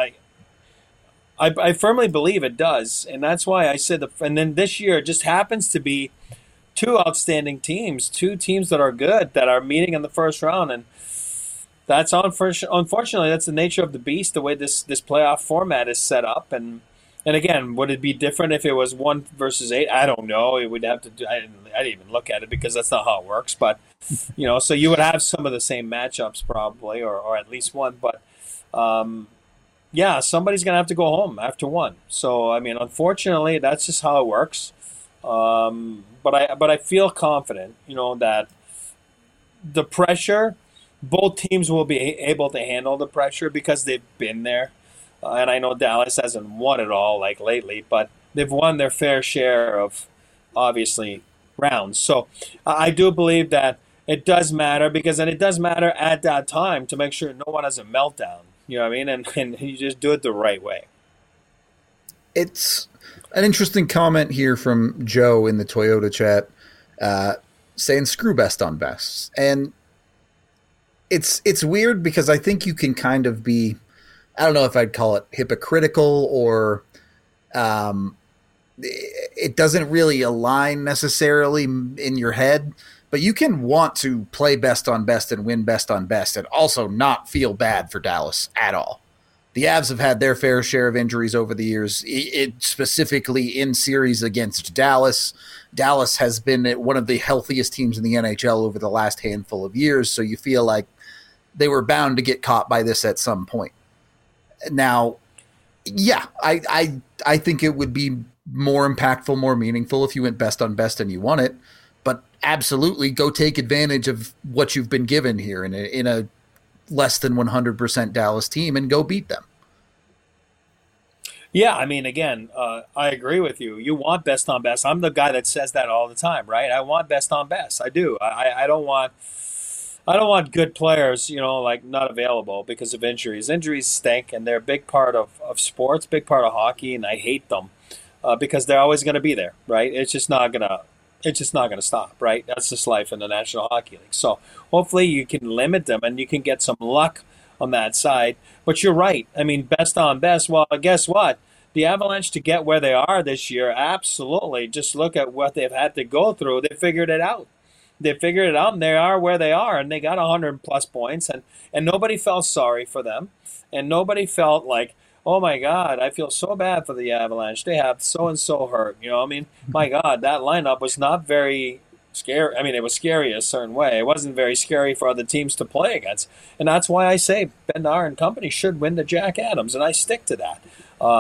I firmly believe it does. And that's why I said, and then this year it just happens to be two outstanding teams, two teams that are good, that are meeting in the first round. And that's unfortunately, that's the nature of the beast, the way this playoff format is set up. And again, would it be different if it was 1 versus 8? I don't know. It would have to do. I didn't even look at it because that's not how it works. But so you would have some of the same matchups probably, or at least one. But somebody's gonna have to go home after 1. So I mean, unfortunately, that's just how it works. But I feel confident, that the pressure, both teams will be able to handle the pressure because they've been there. And I know Dallas hasn't won it all like lately, but they've won their fair share of, obviously, rounds. So I do believe that it does matter, because then it does matter at that time to make sure no one has a meltdown. You know what I mean? And you just do it the right way. It's an interesting comment here from Joe in the Toyota chat saying screw best on best. And it's weird because I think you can kind of be, I don't know if I'd call it hypocritical or it doesn't really align necessarily in your head, but you can want to play best on best and win best on best and also not feel bad for Dallas at all. The Avs have had their fair share of injuries over the years, specifically in series against Dallas. Dallas has been one of the healthiest teams in the NHL over the last handful of years, so you feel like they were bound to get caught by this at some point. Now, yeah, I think it would be more impactful, more meaningful if you went best on best and you won it, but absolutely go take advantage of what you've been given here in a less than 100% Dallas team and go beat them. Yeah, I mean, again, I agree with you. You want best on best. I'm the guy that says that all the time, right? I want best on best. I do. I don't want good players, like not available because of injuries. Injuries stink, and they're a big part of sports, big part of hockey, and I hate them because they're always going to be there, right? It's just not going to stop, right? That's just life in the National Hockey League. So hopefully you can limit them and you can get some luck on that side. But you're right. I mean, best on best. Well, guess what? The Avalanche, to get where they are this year, absolutely. Just look at what they've had to go through. They figured it out. And they are where they are, and they got 100+ points, and nobody felt sorry for them, and nobody felt like, oh my God, I feel so bad for the Avalanche. They have so-and-so hurt. I mean, my God, that lineup was not very scary. I mean, it was scary a certain way. It wasn't very scary for other teams to play against. And that's why I say Bednar and company should win the Jack Adams, and I stick to that.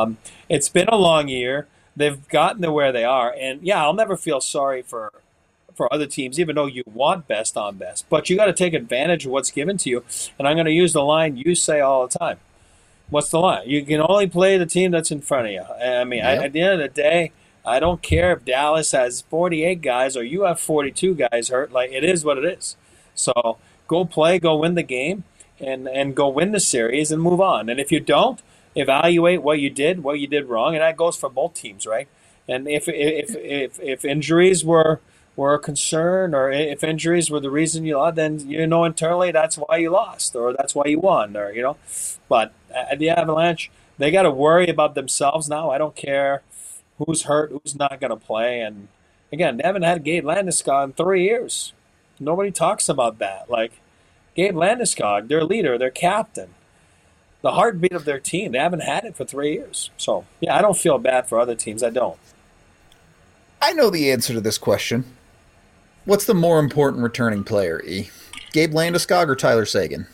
It's been a long year. They've gotten to where they are. And, yeah, I'll never feel sorry for for other teams, even though you want best on best. But you got to take advantage of what's given to you. And I'm going to use the line you say all the time. What's the line? You can only play the team that's in front of you. I mean, at the end of the day, I don't care if Dallas has 48 guys or you have 42 guys hurt. Like, it is what it is. So go play, go win the game, and go win the series and move on. And if you don't, evaluate what you did wrong, and that goes for both teams, right? And if injuries were a concern, or if injuries were the reason you lost, then internally that's why you lost, or that's why you won, or But at the Avalanche, they got to worry about themselves now. I don't care who's hurt, who's not going to play, and again, they haven't had Gabe Landeskog in 3 years. Nobody talks about that. Like, Gabe Landeskog, their leader, their captain, the heartbeat of their team. They haven't had it for 3 years. So, yeah, I don't feel bad for other teams. I don't. I know the answer to this question. What's the more important returning player, E? Gabe Landeskog or Tyler Seguin?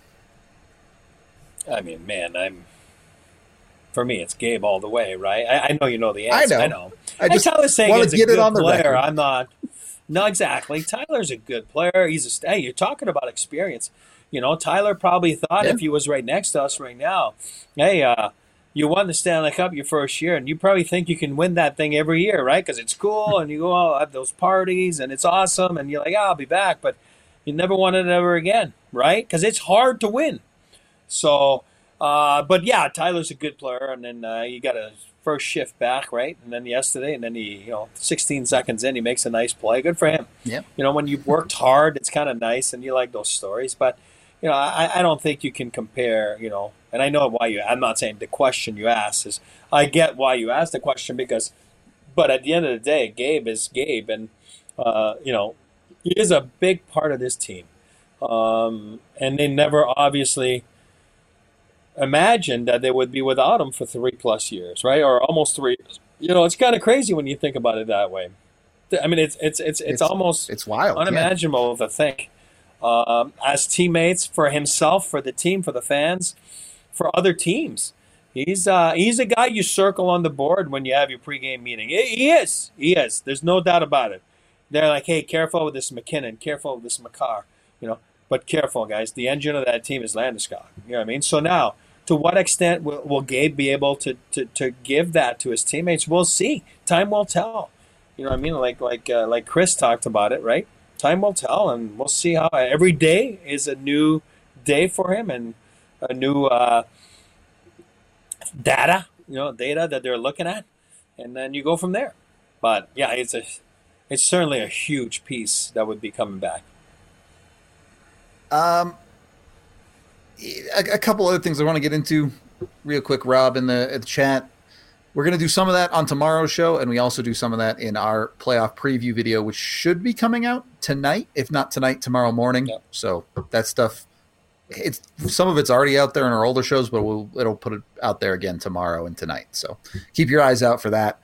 I mean, man, for me, it's Gabe all the way, right? I know you know the answer. I know. I just Tyler Seguin's a good player. Record. I'm not. No, exactly. Tyler's a good player. Hey, you're talking about experience. Tyler probably thought if he was right next to us right now, hey, you won the Stanley Cup your first year, and you probably think you can win that thing every year, right? Because it's cool, and you go out, have those parties, and it's awesome, and you're like, I'll be back, but you never won it ever again, right? Because it's hard to win. So, but yeah, Tyler's a good player, and then you got a first shift back, right? And then yesterday, and then he, 16 seconds in, he makes a nice play. Good for him. Yeah. When you've worked hard, it's kind of nice, and you like those stories. But, I don't think you can compare, and I know why I'm not saying the question you asked is, I get why you asked the question but at the end of the day, Gabe is Gabe, and, he is a big part of this team. And they never obviously imagined that they would be without him for 3+ years, right? Or almost 3 years. It's kind of crazy when you think about it that way. I mean, it's almost wild, unimaginable to think. As teammates, for himself, for the team, for the fans, for other teams, he's a guy you circle on the board when you have your pregame meeting. He is. There's no doubt about it. They're like, hey, careful with this McKinnon, careful with this Makar, But careful, guys. The engine of that team is Landeskog. You know what I mean? So now, to what extent will Gabe be able to give that to his teammates? We'll see. Time will tell. You know what I mean? Like Chris talked about it, right? Time will tell, and we'll see how every day is a new day for him and a new data that they're looking at, and then you go from there. But yeah, it's certainly a huge piece that would be coming back. A couple other things I want to get into real quick, Rob, in the chat. We're going to do some of that on tomorrow's show, and we also do some of that in our playoff preview video, which should be coming out tonight, if not tonight, tomorrow morning. Yep. So that stuff, some of it's already out there in our older shows, but it'll put it out there again tomorrow and tonight. So keep your eyes out for that.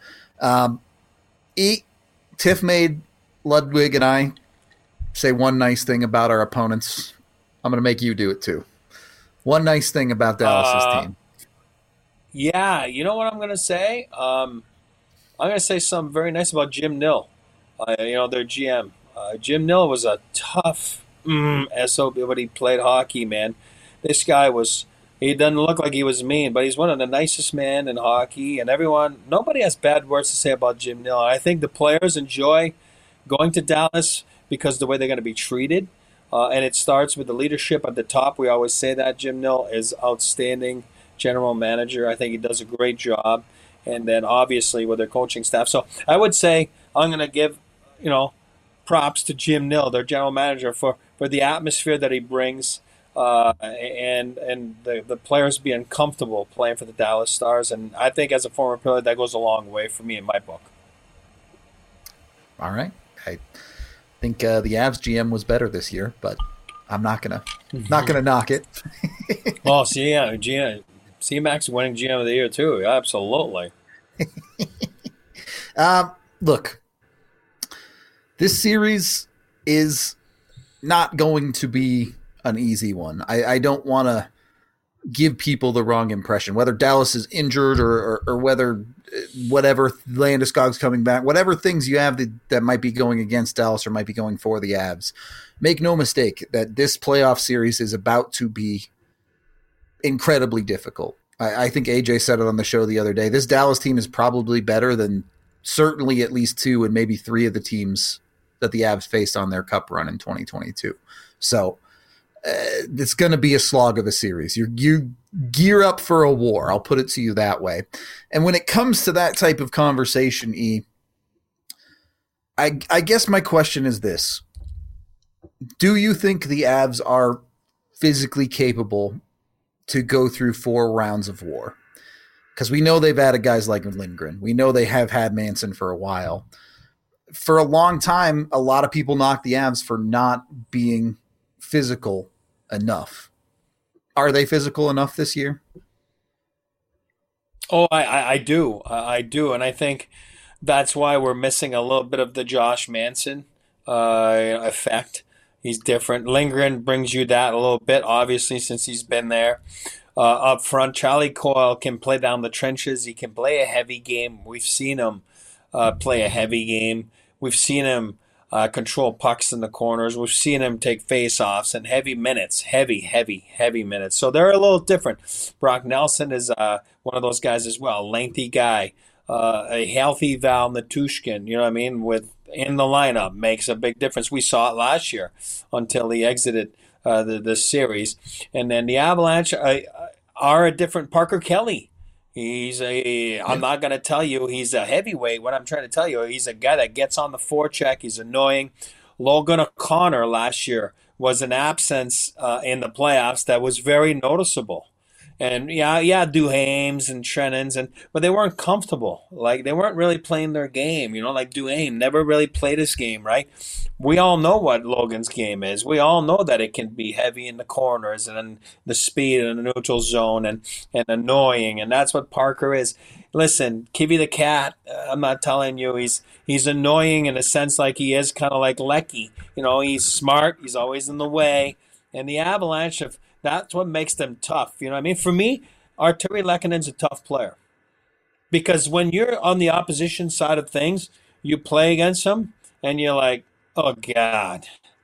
Tiff made Ludwig and I say one nice thing about our opponents. I'm going to make you do it too. One nice thing about Dallas's team. Yeah, you know what I'm going to say? I'm going to say something very nice about Jim Nill, their GM. Jim Nill was a tough SOB, but he played hockey, man. This guy he doesn't look like he was mean, but he's one of the nicest men in hockey, and nobody has bad words to say about Jim Nill. I think the players enjoy going to Dallas because of the way they're going to be treated. And it starts with the leadership at the top. We always say that. Jim Nill is outstanding general manager. I think he does a great job. And then obviously with their coaching staff. So I would say I'm going to give, props to Jim Nill, their general manager, for the atmosphere that he brings and the players being comfortable playing for the Dallas Stars. And I think as a former player, that goes a long way for me in my book. All right. I think the Avs GM was better this year, but I'm not gonna knock it. Oh, see, yeah, C-Max winning GM of the year too. Absolutely. Look, this series is not going to be an easy one. I don't want to give people the wrong impression, whether Dallas is injured or whether whatever Landeskog's coming back, whatever things you have that might be going against Dallas or might be going for the Avs. Make no mistake that this playoff series is about to be incredibly difficult. I think AJ said it on the show the other day. This Dallas team is probably better than certainly at least 2 and maybe 3 of the teams that the Avs faced on their cup run in 2022. So it's going to be a slog of a series. You gear up for a war. I'll put it to you that way. And when it comes to that type of conversation, I guess my question is this. Do you think the Avs are physically capable to go through 4 rounds of war? Because we know they've added guys like Lindgren. We know they have had Manson for a while. For a long time, a lot of people knocked the Avs for not being physical enough. Are they physical enough this year? Oh, I do. I do. And I think that's why we're missing a little bit of the Josh Manson effect. He's different. Lindgren brings you that a little bit, obviously, since he's been there. Up front, Charlie Coyle can play down the trenches. He can play a heavy game. We've seen him play a heavy game. We've seen him control pucks in the corners. We've seen him take face-offs and heavy minutes, heavy minutes. So they're a little different. Brock Nelson is one of those guys as well, lengthy guy, a healthy Val Nichushkin, you know what I mean, in the lineup makes a big difference. We saw it last year until he exited the series. And then the Avalanche are a different Parker Kelly. I'm not going to tell you he's a heavyweight. What I'm trying to tell you, he's a guy that gets on the forecheck. He's annoying. Logan O'Connor last year was an absence in the playoffs that was very noticeable. And Duhaime's and Shannon's, but they weren't comfortable. Like, they weren't really playing their game. Like Duhaime never really played his game, right? We all know what Logan's game is. We all know that it can be heavy in the corners and the speed in the neutral zone and annoying. And that's what Parker is. Listen, Kivy the Cat, I'm not telling you he's annoying in a sense like he is kind of like Lecky. He's smart. He's always in the way. And the Avalanche that's what makes them tough. You know what I mean? For me, Artturi Lekkonen's a tough player. Because when you're on the opposition side of things, you play against him, and you're like, oh, God,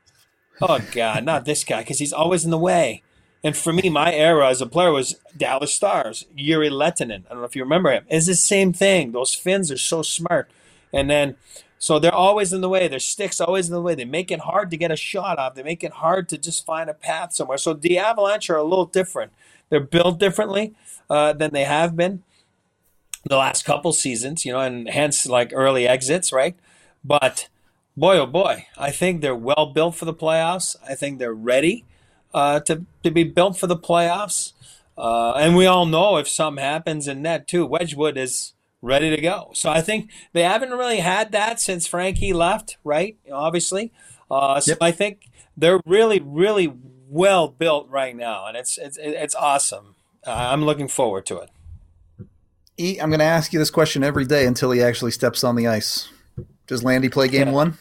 not this guy, because he's always in the way. And for me, my era as a player was Dallas Stars, Jiri Lehtinen. I don't know if you remember him. It's the same thing. Those Finns are so smart. And then, so they're always in the way. Their stick's always in the way. They make it hard to get a shot off. They make it hard to just find a path somewhere. So the Avalanche are a little different. They're built differently than they have been the last couple seasons, and hence like early exits, right? But boy, oh boy, I think they're well built for the playoffs. I think they're ready to be built for the playoffs. And we all know if something happens in net too, Wedgwood is ready to go. So I think they haven't really had that since Frankie left, right? Obviously. So I think they're really, really well built right now, and it's awesome. I'm looking forward to it. I'm going to ask you this question every day until he actually steps on the ice. Does Landy play game 1?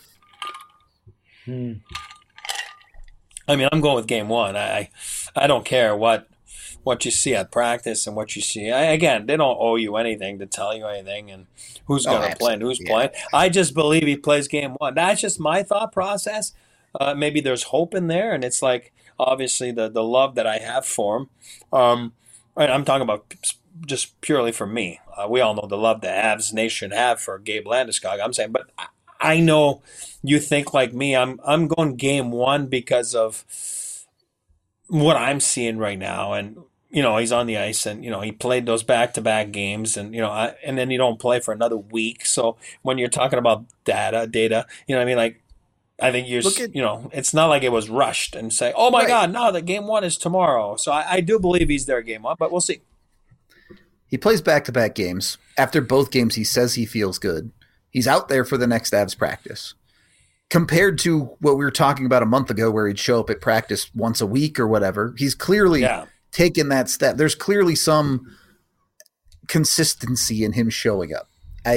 I mean, I'm going with game 1. I don't care what you see at practice and what you see. Again, they don't owe you anything to tell you anything and who's going to play and who's playing. I just believe he plays game 1. That's just my thought process. Maybe there's hope in there, and it's like obviously the love that I have for him. I'm talking about just purely for me. We all know the love the Avs Nation have for Gabe Landeskog. I'm saying, but I know you think like me. I'm going game 1 because of what I'm seeing right now, and he's on the ice, and he played those back-to-back games, and and then you don't play for another week. So when you're talking about data, what I mean, like I think you're, it's not like it was rushed and say, oh my God, no, the game 1 is tomorrow. So I do believe he's there game 1, but we'll see. He plays back-to-back games. After both games, he says he feels good. He's out there for the next Avs practice. Compared to what we were talking about a month ago where he'd show up at practice once a week or whatever, he's clearly taken that step. There's clearly some consistency in him showing up.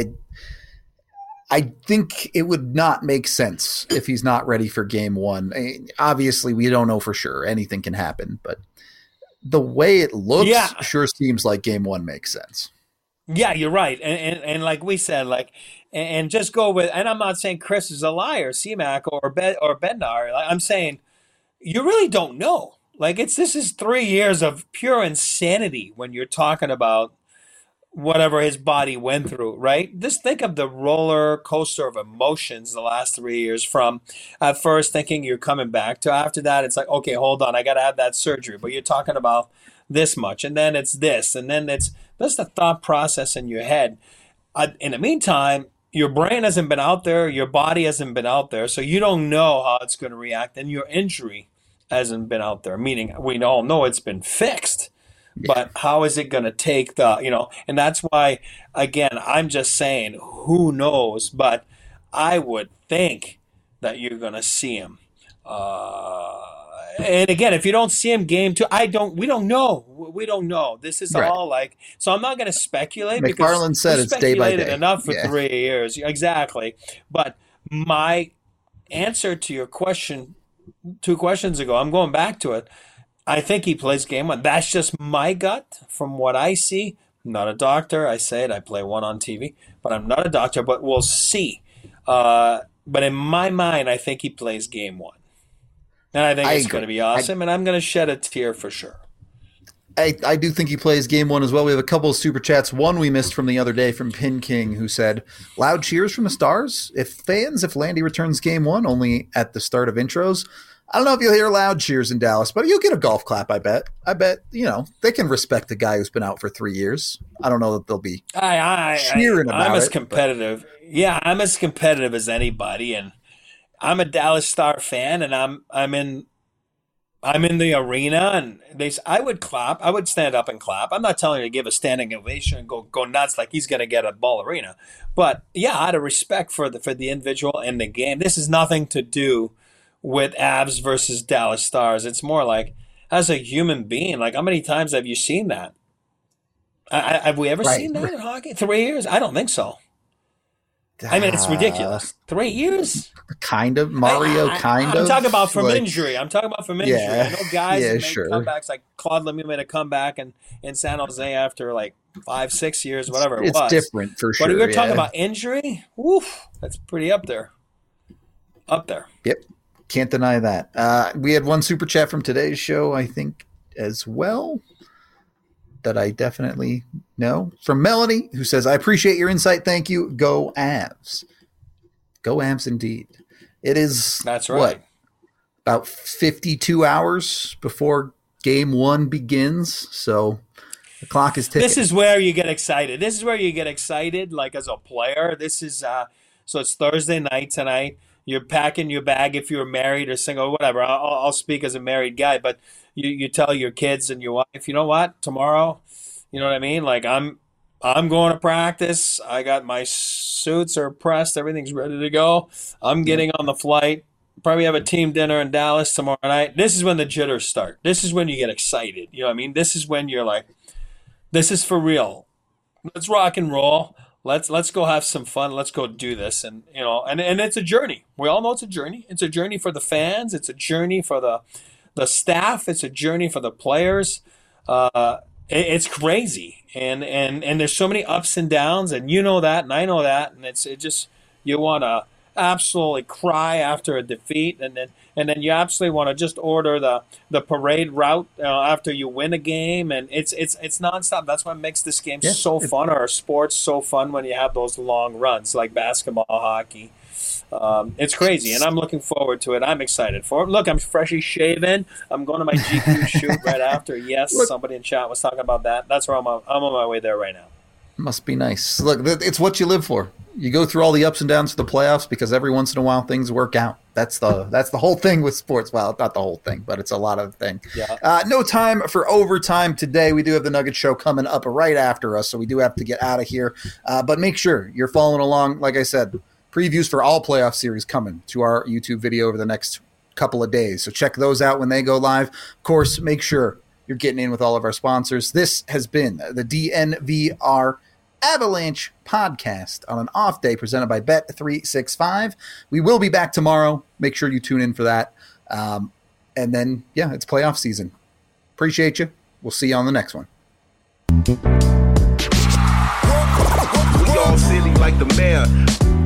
I think it would not make sense if he's not ready for game 1. Obviously, we don't know for sure. Anything can happen, but The way it looks Yeah. sure seems like game one makes sense. Yeah, you're right. And like we said, like, and just go with, and I'm not saying Chris is a liar, CMAC or Bednar. Like, I'm saying you really don't know. Like, this is 3 years of pure insanity when you're talking about whatever his body went through, right? Just think of the roller coaster of emotions the last 3 years, from at first thinking you're coming back to after that, it's like, okay, hold on, I got to have that surgery. But you're talking about this much, and then it's this, and then that's the thought process in your head. In the meantime, your brain hasn't been out there, your body hasn't been out there, so you don't know how it's going to react, and your injury hasn't been out there, meaning we all know it's been fixed. But how is it going to take and that's why, again, I'm just saying, who knows? But I would think that you're going to see him. And again, if you don't see him game two, we don't know. We don't know. This is Right. all like, so I'm not going to speculate. McFarland because said we it's day by speculated day. enough for Yeah. 3 years. Exactly. But my answer to your question 2 questions ago, I'm going back to it. I think he plays game one. That's just my gut from what I see. I'm not a doctor. I say it. I play one on TV, but I'm not a doctor. But we'll see. But in my mind, I think he plays game one, and I think it's agree. going to be awesome. And I'm going to shed a tear for sure. I do think he plays game one as well. We have a couple of super chats. One we missed from the other day from Pin King, who said, "Loud cheers from the Stars. If Landy returns game one only at the start of intros, I don't know if you'll hear loud cheers in Dallas, but you'll get a golf clap, I bet. They can respect the guy who's been out for 3 years. I don't know that they'll be cheering about I'm as it, competitive. Yeah, I'm as competitive as anybody, and I'm a Dallas Star fan, and I'm in the arena, and I would clap. I would stand up and clap. I'm not telling you to give a standing ovation and go nuts like he's going to get a ball arena, but yeah, out of respect for the individual and the game. This has nothing to do with Avs versus Dallas Stars. It's more like, as a human being, like, how many times have you seen that? Have we ever seen that in hockey? 3 years? I don't think so. I mean, it's ridiculous. 3 years? Kind of. Mario, kind of. I'm talking about from like- injury. I know guys yeah, that make sure. comebacks, like Claude Lemieux made a comeback in San Jose after like 5-6 years, whatever it It's was. different for sure. But if you're talking yeah. about injury, woof, that's pretty up there. Up there. Yep. Can't deny that. We had one super chat from today's show, I think, as well, that I definitely know. From Melanie, who says, "I appreciate your insight. Thank you. Go Avs." Go Avs indeed. It is, That's right. what, about 52 hours before game one begins. So the clock is ticking. This is where you get excited. This is where you get excited, like, as a player. This is so it's Thursday night tonight. You're packing your bag if you're married or single, whatever. I'll speak as a married guy, but you tell your kids and your wife, you know what, tomorrow, you know what I mean? Like, I'm going to practice. I got my suits are pressed. Everything's ready to go. I'm getting on the flight. Probably have a team dinner in Dallas tomorrow night. This is when the jitters start. This is when you get excited. You know what I mean? This is when you're like, this is for real. Let's rock and roll. Let's go have some fun. Let's go do this. And and it's a journey. We all know it's a journey. It's a journey for the fans. It's a journey for the staff. It's a journey for the players. It's crazy. And there's so many ups and downs, and you know that, and I know that, and it just, you want to absolutely cry after a defeat, and then you absolutely want to just order the parade route after you win a game, and it's nonstop. That's what makes this game so fun, or sports so fun, when you have those long runs like basketball, hockey. It's crazy, and I'm looking forward to it. I'm excited for it. Look, I'm freshly shaven. I'm going to my GQ shoot right after. Yes, somebody in chat was talking about that. That's where I'm on my way there right now. Must be nice. Look, it's what you live for. You go through all the ups and downs of the playoffs because every once in a while things work out. That's the whole thing with sports. Well, not the whole thing, but it's a lot of the thing. Yeah. No time for overtime today. We do have the Nugget Show coming up right after us, so we do have to get out of here. But make sure you're following along. Like I said, previews for all playoff series coming to our YouTube video over the next couple of days. So check those out when they go live. Of course, make sure you're getting in with all of our sponsors. This has been the DNVR Avalanche podcast on an off day presented by Bet365. We will be back tomorrow. Make sure you tune in for that. And then, it's playoff season. Appreciate you. We'll see you on the next one. We all silly like the mayor.